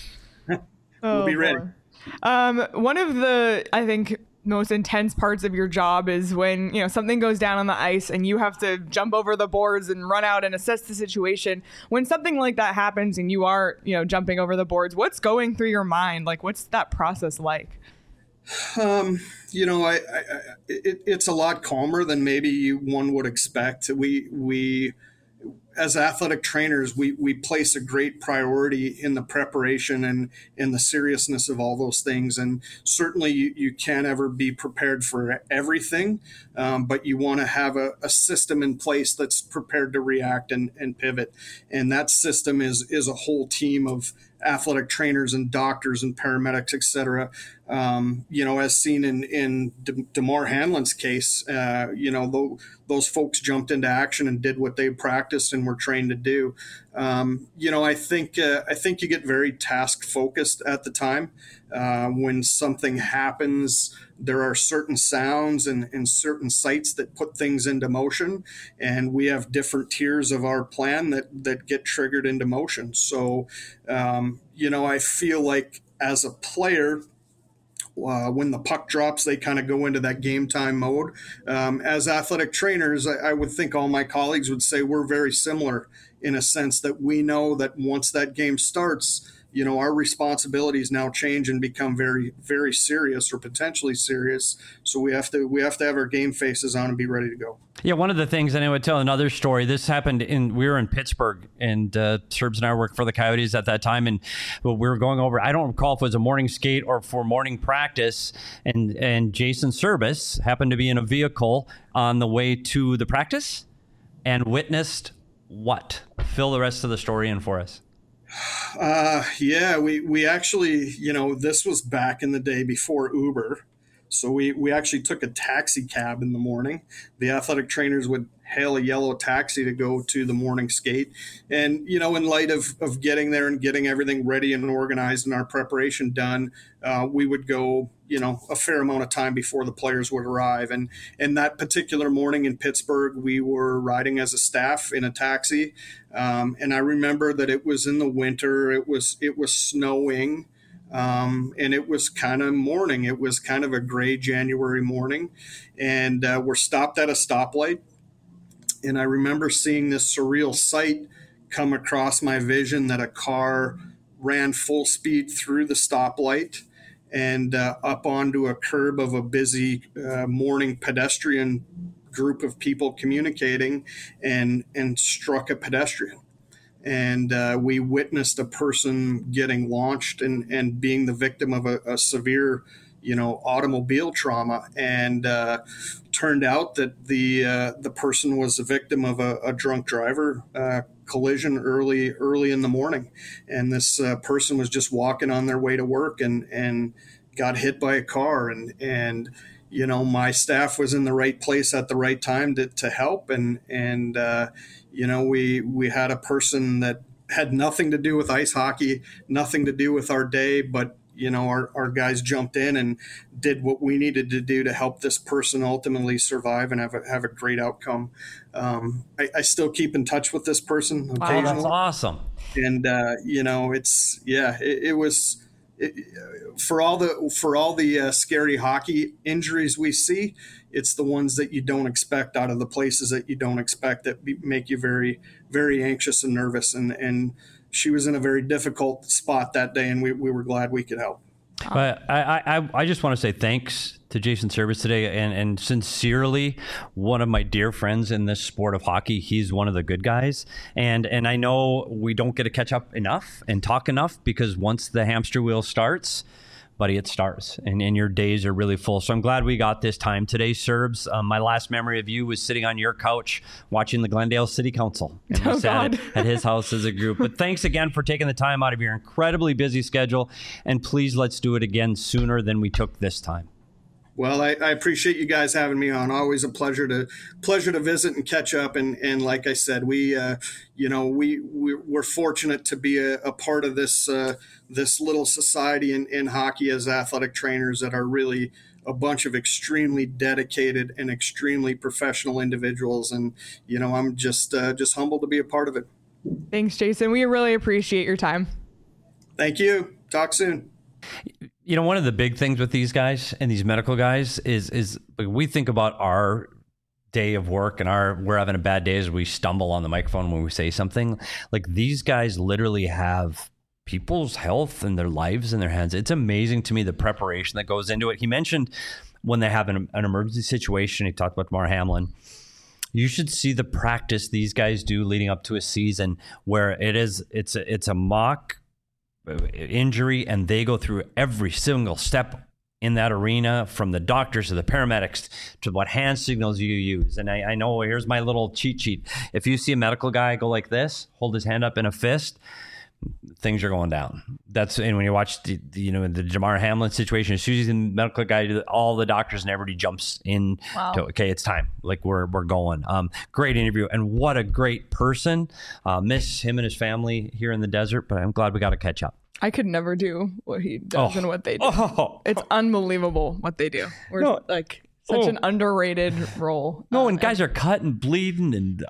[SPEAKER 6] We'll be ready.
[SPEAKER 1] One of the, I think, most intense parts of your job is when something goes down on the ice and you have to jump over the boards and run out and assess the situation. When something like that happens and you are jumping over the boards, what's going through your mind? Like, what's that process like?
[SPEAKER 6] It's a lot calmer than maybe one would expect. We as athletic trainers, we place a great priority in the preparation and in the seriousness of all those things. And certainly you can't ever be prepared for everything, but you want to have a system in place that's prepared to react and pivot. And that system is a whole team of athletic trainers and doctors and paramedics, et cetera. As seen in DeMar Hanlon's case, those folks jumped into action and did what they practiced and were trained to do. I think you get very task focused at the time. When something happens, there are certain sounds and certain sights that put things into motion, and we have different tiers of our plan that get triggered into motion. So, I feel like as a player, when the puck drops, they kind of go into that game time mode. As athletic trainers, I would think all my colleagues would say we're very similar in a sense that we know that once that game starts, our responsibilities now change and become very, very serious or potentially serious. So we have to have our game faces on and be ready to go.
[SPEAKER 2] Yeah, one of the things, and I would tell another story. This happened we were in Pittsburgh, and Serbs and I worked for the Coyotes at that time, and we were going over, I don't recall if it was a morning skate or for morning practice, and Jason Serbis happened to be in a vehicle on the way to the practice and witnessed what? Fill the rest of the story in for us.
[SPEAKER 6] Yeah, we actually, this was back in the day before Uber. So we actually took a taxi cab in the morning. The athletic trainers would hail a yellow taxi to go to the morning skate. And, in light of getting there and getting everything ready and organized and our preparation done, we would go, a fair amount of time before the players would arrive. And that particular morning in Pittsburgh, we were riding as a staff in a taxi. And I remember that it was in the winter. It was snowing. And it was kind of morning. It was kind of a gray January morning, and we're stopped at a stoplight. And I remember seeing this surreal sight come across my vision, that a car ran full speed through the stoplight and up onto a curb of a busy morning pedestrian group of people communicating, and struck a pedestrian. And we witnessed a person getting launched and being the victim of a severe, automobile trauma. And turned out that the person was a victim of a drunk driver collision early in the morning. And this person was just walking on their way to work and got hit by a car. And my staff was in the right place at the right time to help. And we had a person that had nothing to do with ice hockey, nothing to do with our day, but our guys jumped in and did what we needed to do to help this person ultimately survive and have a great outcome. I still keep in touch with this person occasionally.
[SPEAKER 2] Wow, that's awesome.
[SPEAKER 6] And it was. For all the scary hockey injuries we see, it's the ones that you don't expect out of the places that you don't expect that make you very, very anxious and nervous. And she was in a very difficult spot that day, and we were glad we could help.
[SPEAKER 2] But I just want to say thanks to Jason Serbis today, and sincerely, one of my dear friends in this sport of hockey. He's one of the good guys, and I know we don't get to catch up enough and talk enough, because once the hamster wheel starts, buddy, it starts, and your days are really full. So I'm glad we got this time today, Serbs. My last memory of you was sitting on your couch watching the Glendale City Council. And we sat at his house as a group. But thanks again for taking the time out of your incredibly busy schedule. And please, let's do it again sooner than we took this time.
[SPEAKER 6] Well, I appreciate you guys having me on. Always a pleasure to visit and catch up. And like I said, we're fortunate to be a part of this little society in hockey as athletic trainers that are really a bunch of extremely dedicated and extremely professional individuals. And I'm just humbled to be a part of it.
[SPEAKER 1] Thanks, Jason. We really appreciate your time.
[SPEAKER 6] Thank you. Talk soon.
[SPEAKER 2] One of the big things with these guys and these medical guys is we think about our day of work and we're having a bad day as we stumble on the microphone when we say something. Like, these guys literally have people's health and their lives in their hands. It's amazing to me the preparation that goes into it. He mentioned when they have an emergency situation, he talked about Damar Hamlin. You should see the practice these guys do leading up to a season where it's a mock injury, and they go through every single step in that arena, from the doctors to the paramedics to what hand signals you use. And I know, here's my little cheat sheet. If you see a medical guy go like this, hold his hand up in a fist, things are going down. And when you watch the Damar Hamlin situation, as soon as the medical guy, all the doctors and everybody jumps in. Wow. Okay, it's time. Like, we're going. Great interview, and what a great person. Miss him and his family here in the desert, but I'm glad we got to catch up.
[SPEAKER 1] I could never do what he does and what they do. It's unbelievable what they do. We're such an underrated role.
[SPEAKER 2] And guys are cut and bleeding, and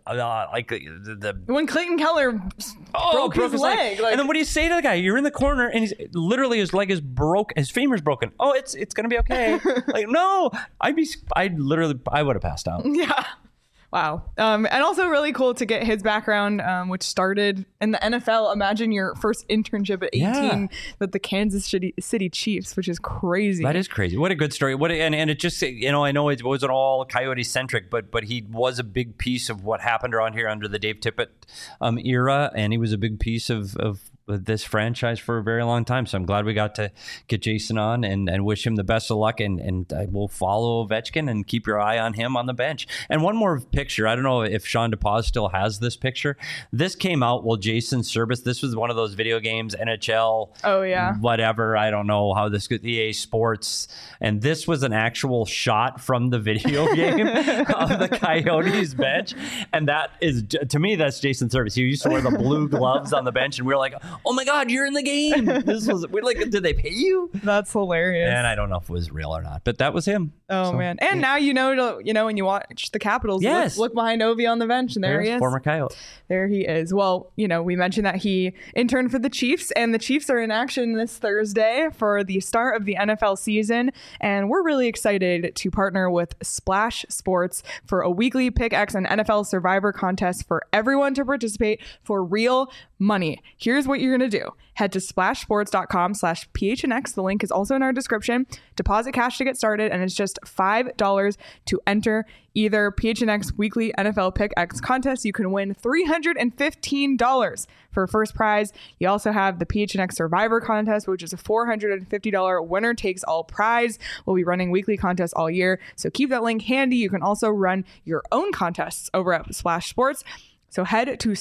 [SPEAKER 1] when Clayton Keller broke his leg.
[SPEAKER 2] And then what do you say to the guy? You're in the corner, and he's literally, his leg is broke, his femur's broken. Oh, it's gonna be okay. No, I would have passed out.
[SPEAKER 1] Yeah. Wow. And also really cool to get his background, which started in the NFL. Imagine your first internship at 18 with the Kansas City Chiefs, which is crazy.
[SPEAKER 2] That is crazy. What a good story. And it just, I know it wasn't all Coyote centric, but he was a big piece of what happened around here under the Dave Tippett era. And he was a big piece of this franchise for a very long time. So I'm glad we got to get Jason on and wish him the best of luck. And we'll follow Ovechkin and keep your eye on him on the bench. And one more picture. I don't know if Sean DePaz still has this picture. This came out while Jason Service, this was one of those video games, NHL.
[SPEAKER 1] Oh, yeah.
[SPEAKER 2] Whatever. I don't know how this goes. EA Sports. And this was an actual shot from the video game of the Coyotes bench. And that is, to me, that's Jason Service. He used to wear the blue gloves on the bench. And we were like, oh my God, you're in the game. We're like, did they pay you?
[SPEAKER 1] That's hilarious.
[SPEAKER 2] And I don't know if it was real or not, but that was him.
[SPEAKER 1] Oh, man. And now when you watch the Capitals, look behind Ovi on the bench, and there he is.
[SPEAKER 2] Former Coyote.
[SPEAKER 1] There he is. Well, we mentioned that he interned for the Chiefs, and the Chiefs are in action this Thursday for the start of the NFL season, and we're really excited to partner with Splash Sports for a weekly Pick X and NFL Survivor contest for everyone to participate for real money. Here's what you're going to do. Head to splashsports.com/PHNX. The link is also in our description. Deposit cash to get started, and it's just $5 to enter either PHNX Weekly NFL Pick X contest. You can win $315 for first prize. You also have the PHNX Survivor contest, which is a $450 winner takes all prize. We'll be running weekly contests all year, so keep that link handy. You can also run your own contests over at Splash Sports. So head to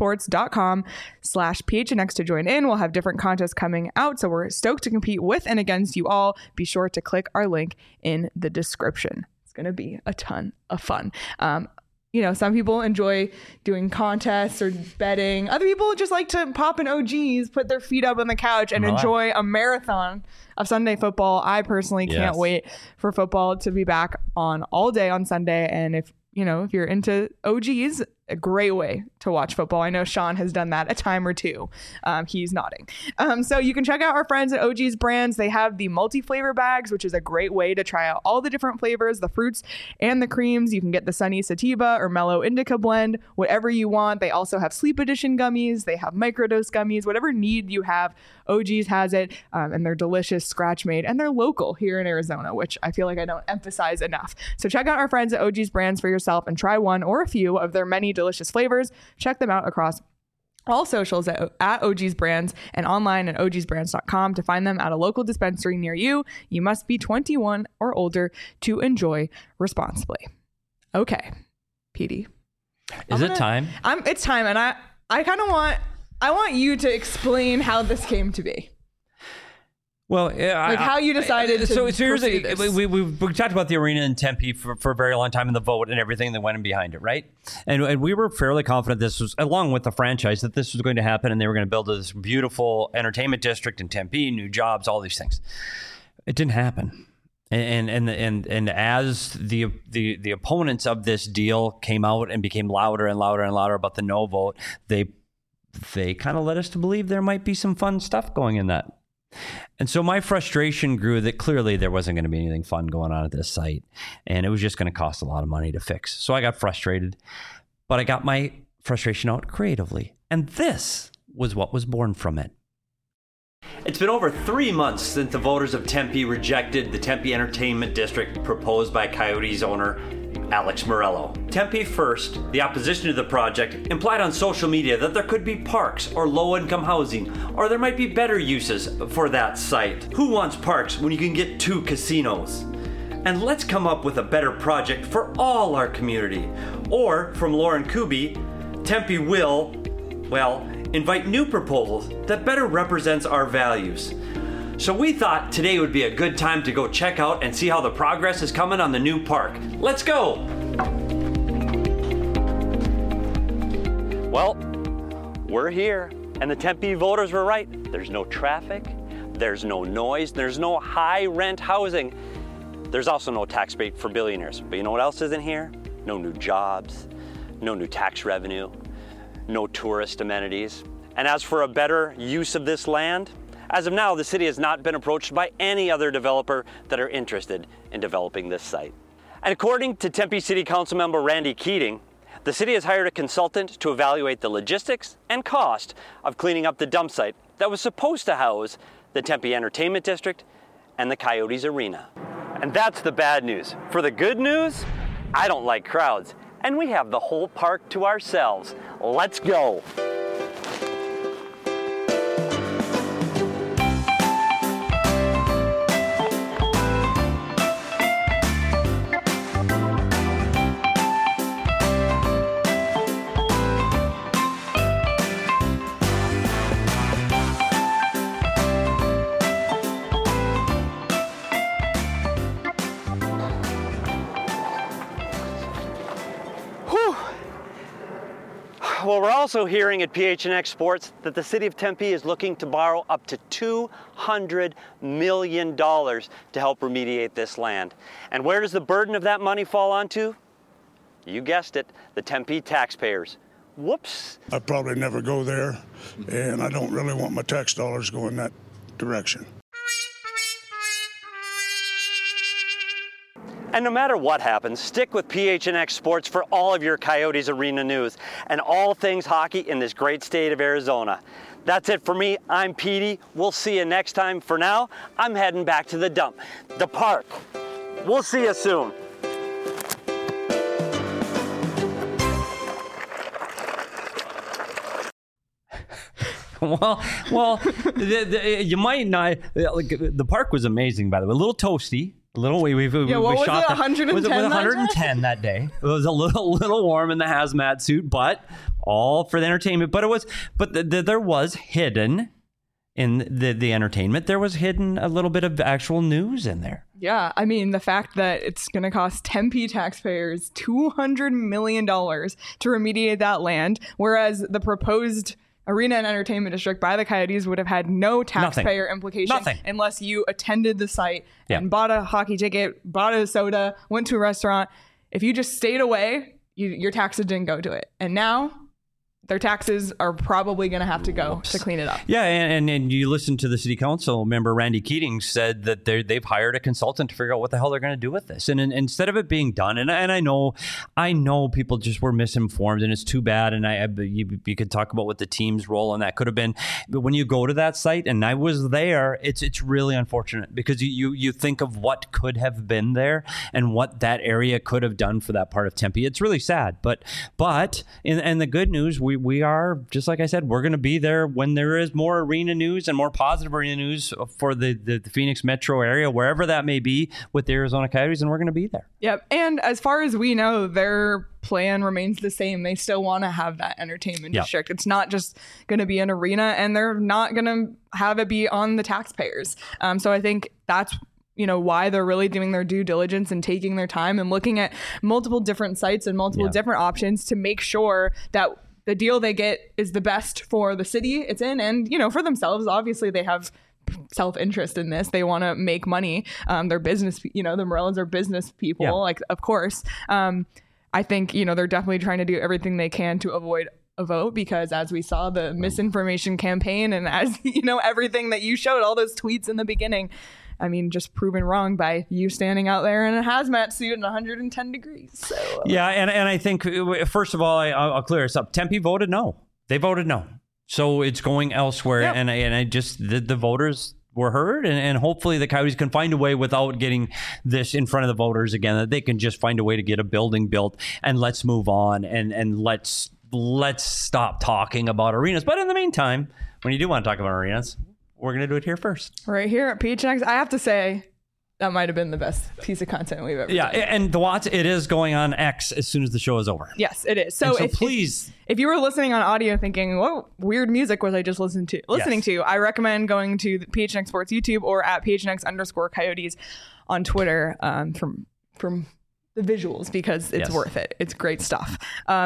[SPEAKER 1] splashsports.com/PHNX to join in. We'll have different contests coming out, so we're stoked to compete with and against you all. Be sure to click our link in the description. It's going to be a ton of fun. Some people enjoy doing contests or betting. Other people just like to pop in OGs, put their feet up on the couch, and enjoy a marathon of Sunday football. I personally can't wait for football to be back on all day on Sunday. And if you're into OGs, a great way to watch football. I know Sean has done that a time or two. He's nodding. So you can check out our friends at OG's Brands. They have the multi-flavor bags, which is a great way to try out all the different flavors, the fruits and the creams. You can get the Sunny Sativa or Mellow Indica blend, whatever you want. They also have Sleep Edition gummies. They have microdose gummies. Whatever need you have, OG's has it. And they're delicious, scratch made, and they're local here in Arizona, which I feel like I don't emphasize enough. So check out our friends at OG's Brands for yourself and try one or a few of their many delicious flavors. Check them out across all socials at OG's Brands and online at ogsbrands.com to find them at a local dispensary near you. You must be 21 or older to enjoy responsibly. Okay, PD.
[SPEAKER 2] Is it time?
[SPEAKER 1] It's time, and I kind of want you to explain how this came to be.
[SPEAKER 2] Well,
[SPEAKER 1] how you decided to
[SPEAKER 2] here's we talked about the arena in Tempe for a very long time and the vote and everything that went in behind it, right? And we were fairly confident this was, along with the franchise, that this was going to happen and they were going to build this beautiful entertainment district in Tempe, new jobs, all these things. It didn't happen. And as the opponents of this deal came out and became louder and louder and louder about the no vote, they kind of led us to believe there might be some fun stuff going in that. And so my frustration grew that clearly there wasn't going to be anything fun going on at this site, and it was just going to cost a lot of money to fix. So I got frustrated, but I got my frustration out creatively, and this was what was born from it. It's been over 3 months since the voters of Tempe rejected the Tempe Entertainment District proposed by Coyotes owner Alex Morello. Tempe First, the opposition to the project, implied on social media that there could be parks or low-income housing, or there might be better uses for that site. Who wants parks when you can get 2 casinos? And let's come up with a better project for all our community. Or, from Lauren Kuby, Tempe will, invite new proposals that better represents our values. So we thought today would be a good time to go check out and see how the progress is coming on the new park. Let's go! Well, we're here, and the Tempe voters were right. There's no traffic, there's no noise, there's no high rent housing. There's also no tax break for billionaires. But you know what else isn't here? No new jobs, no new tax revenue, no tourist amenities. And as for a better use of this land, as of now, the city has not been approached by any other developer that are interested in developing this site.
[SPEAKER 7] And according to Tempe City Council member Randy Keating, the city has hired a consultant to evaluate the logistics and cost of cleaning up the dump site that was supposed to house the Tempe Entertainment District and the Coyotes Arena. And that's the bad news. For the good news, I don't like crowds, and we have the whole park to ourselves. Let's go. Well, we're also hearing at PHNX Sports that the city of Tempe is looking to borrow up to $200 million to help remediate this land. And where does the burden of that money fall onto? You guessed it, the Tempe taxpayers. Whoops.
[SPEAKER 8] I probably never go there, and I don't really want my tax dollars going that direction.
[SPEAKER 7] And no matter what happens, stick with PHNX Sports for all of your Coyotes Arena news and all things hockey in this great state of Arizona. That's it for me. I'm Petey. We'll see you next time. For now, I'm heading back to the dump, the park. We'll see you soon.
[SPEAKER 2] Well, you might not. Like, the park was amazing, by the way. A little toasty. A little. We
[SPEAKER 1] what
[SPEAKER 2] shot
[SPEAKER 1] was it? 110.
[SPEAKER 2] Was it 110 that day? It was a little warm in the hazmat suit, but all for the entertainment. There was hidden in the entertainment. There was hidden a little bit of actual news in there.
[SPEAKER 1] Yeah, I mean, the fact that it's going to cost Tempe taxpayers $200 million to remediate that land, whereas the proposed Arena and Entertainment District by the Coyotes would have had no taxpayer implication unless you attended the site and bought a hockey ticket, bought a soda, went to a restaurant. If you just stayed away, your taxes didn't go to it. And now their taxes are probably going to have to go to clean it up.
[SPEAKER 2] Yeah, and you listen to the city council member, Randy Keating, said that they've hired a consultant to figure out what the hell they're going to do with this. And instead of it being done, and I know people just were misinformed, and it's too bad. And you could talk about what the team's role in that could have been. But when you go to that site, and I was there, it's really unfortunate because you think of what could have been there and what that area could have done for that part of Tempe. It's really sad. But in the good news, we are, just like I said, we're going to be there when there is more arena news and more positive arena news for the Phoenix metro area, wherever that may be with the Arizona Coyotes, and we're going to be there.
[SPEAKER 1] Yep. And as far as we know, their plan remains the same. They still want to have that entertainment district. It's not just going to be an arena, and they're not going to have it be on the taxpayers. So I think that's why they're really doing their due diligence and taking their time and looking at multiple different sites and multiple different options to make sure that the deal they get is the best for the city it's in and, for themselves. Obviously, they have self-interest in this. They want to make money. They're business, the Morellons are business people, of course. I think, they're definitely trying to do everything they can to avoid a vote because as we saw the misinformation campaign and as, everything that you showed, all those tweets in the beginning, I mean, just proven wrong by you standing out there in a hazmat suit in 110 degrees. So
[SPEAKER 2] yeah, and I think, first of all, I'll clear this up. Tempe voted no. They voted no. So it's going elsewhere. Yep. And I just, the voters were heard. And hopefully the Coyotes can find a way without getting this in front of the voters again, that they can just find a way to get a building built and let's move on and let's stop talking about arenas. But in the meantime, when you do want to talk about arenas, we're going to do it here first.
[SPEAKER 1] Right here at PHNX. I have to say, that might have been the best piece of content we've ever done.
[SPEAKER 2] And the Watts, it is going on X as soon as the show is over.
[SPEAKER 1] Yes, it is. So
[SPEAKER 2] please.
[SPEAKER 1] If you were listening on audio thinking, what weird music was I just listening to, I recommend going to the PHNX Sports YouTube or at PHNX_Coyotes on Twitter from the visuals because it's worth it. It's great stuff.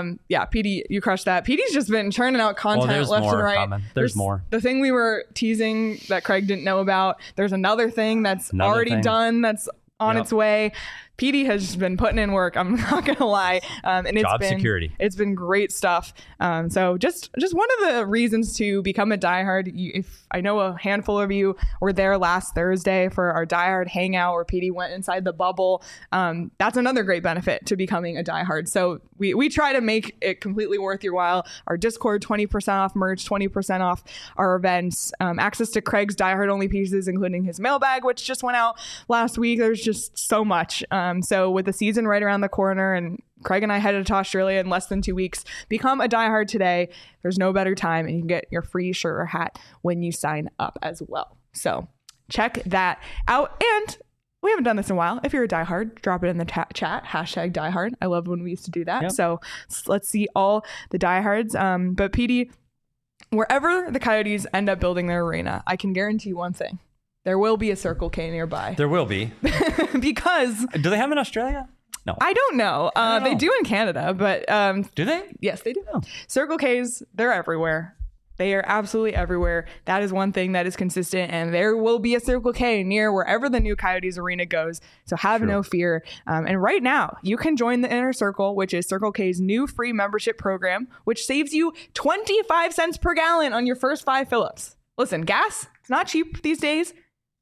[SPEAKER 1] PD, you crushed that. PD's just been churning out content left and right.
[SPEAKER 2] There's more.
[SPEAKER 1] The thing we were teasing that Craig didn't know about. There's another thing that's already done that's on its way. PD has just been putting in work. I'm not gonna lie, and it's been great stuff. So just one of the reasons to become a diehard. If I know a handful of you were there last Thursday for our diehard hangout where PD went inside the bubble. That's another great benefit to becoming a diehard. So we try to make it completely worth your while. Our Discord, 20% off merch, 20% off our events, access to Craig's diehard only pieces, including his mailbag, which just went out last week. There's just so much. So with the season right around the corner and Craig and I headed to Australia in less than 2 weeks, become a diehard today. There's no better time, and you can get your free shirt or hat when you sign up as well. So check that out. And we haven't done this in a while. If you're a diehard, drop it in the chat, #diehard. I love when we used to do that. Yep. So let's see all the diehards. But PD, wherever the Coyotes end up building their arena, I can guarantee you one thing. There will be a Circle K nearby.
[SPEAKER 2] There will be.
[SPEAKER 1] Because...
[SPEAKER 2] Do they have them in Australia? No.
[SPEAKER 1] I don't know. They do in Canada, but...
[SPEAKER 2] do they?
[SPEAKER 1] Yes, they do.
[SPEAKER 2] Oh.
[SPEAKER 1] Circle Ks, they're everywhere. They are absolutely everywhere. That is one thing that is consistent, and there will be a Circle K near wherever the new Coyotes arena goes. So have no fear. And right now, you can join the Inner Circle, which is Circle K's new free membership program, which saves you 25 cents per gallon on your first 5 fill-ups. Listen, gas, it's not cheap these days.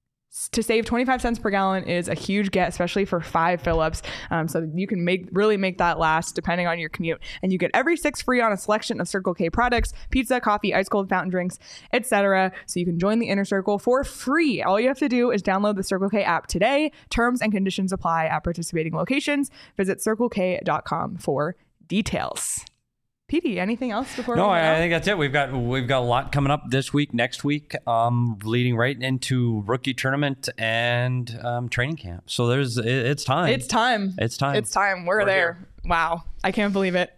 [SPEAKER 1] To save 25 cents per gallon is a huge get, especially for 5 fill-ups. So you can really make that last depending on your commute. And you get every 6 free on a selection of Circle K products, pizza, coffee, ice cold fountain drinks, etc. So you can join the Inner Circle for free. All you have to do is download the Circle K app today. Terms and conditions apply at participating locations. Visit circlek.com for details. PD, anything else before?
[SPEAKER 2] No, I think that's it. We've got a lot coming up this week, next week, leading right into rookie tournament and training camp. So it's time.
[SPEAKER 1] It's time. We're there. Here. Wow. I can't believe it.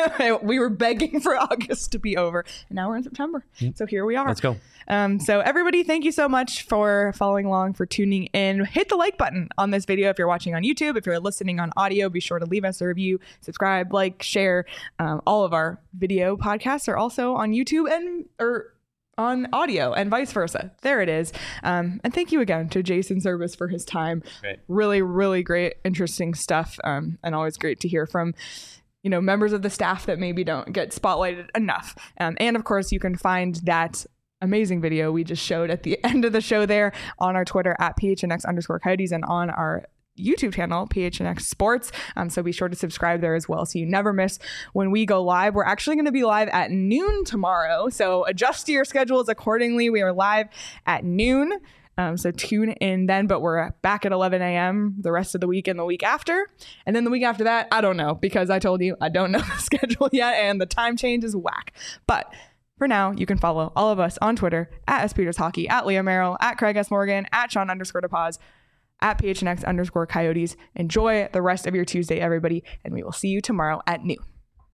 [SPEAKER 1] We were begging for August to be over, and now we're in September. Yep. So here we are.
[SPEAKER 2] Let's go.
[SPEAKER 1] So everybody, thank you so much for following along, for tuning in. Hit the like button on this video if you're watching on YouTube. If you're listening on audio, be sure to leave us a review, subscribe, like, share. All of our video podcasts are also on YouTube or on audio and vice versa. There it is. And thank you again to Jason Service for his time. Great. Really, really great, interesting stuff. And always great to hear from, members of the staff that maybe don't get spotlighted enough. And of course, you can find that amazing video we just showed at the end of the show there on our Twitter at @PHNX_Coyotes and on our YouTube channel, PHNX Sports. So be sure to subscribe there as well so you never miss when we go live. We're actually going to be live at noon tomorrow. So adjust your schedules accordingly. We are live at noon. So tune in then, but we're back at 11 a.m. the rest of the week and the week after. And then the week after that, I don't know, because I told you I don't know the schedule yet and the time change is whack. But for now, you can follow all of us on Twitter at SPetersHockey, at Leah Merrill, at Craig S. Morgan, at Sean_DePaz, at PHNX_Coyotes. Enjoy the rest of your Tuesday, everybody, and we will see you tomorrow at noon.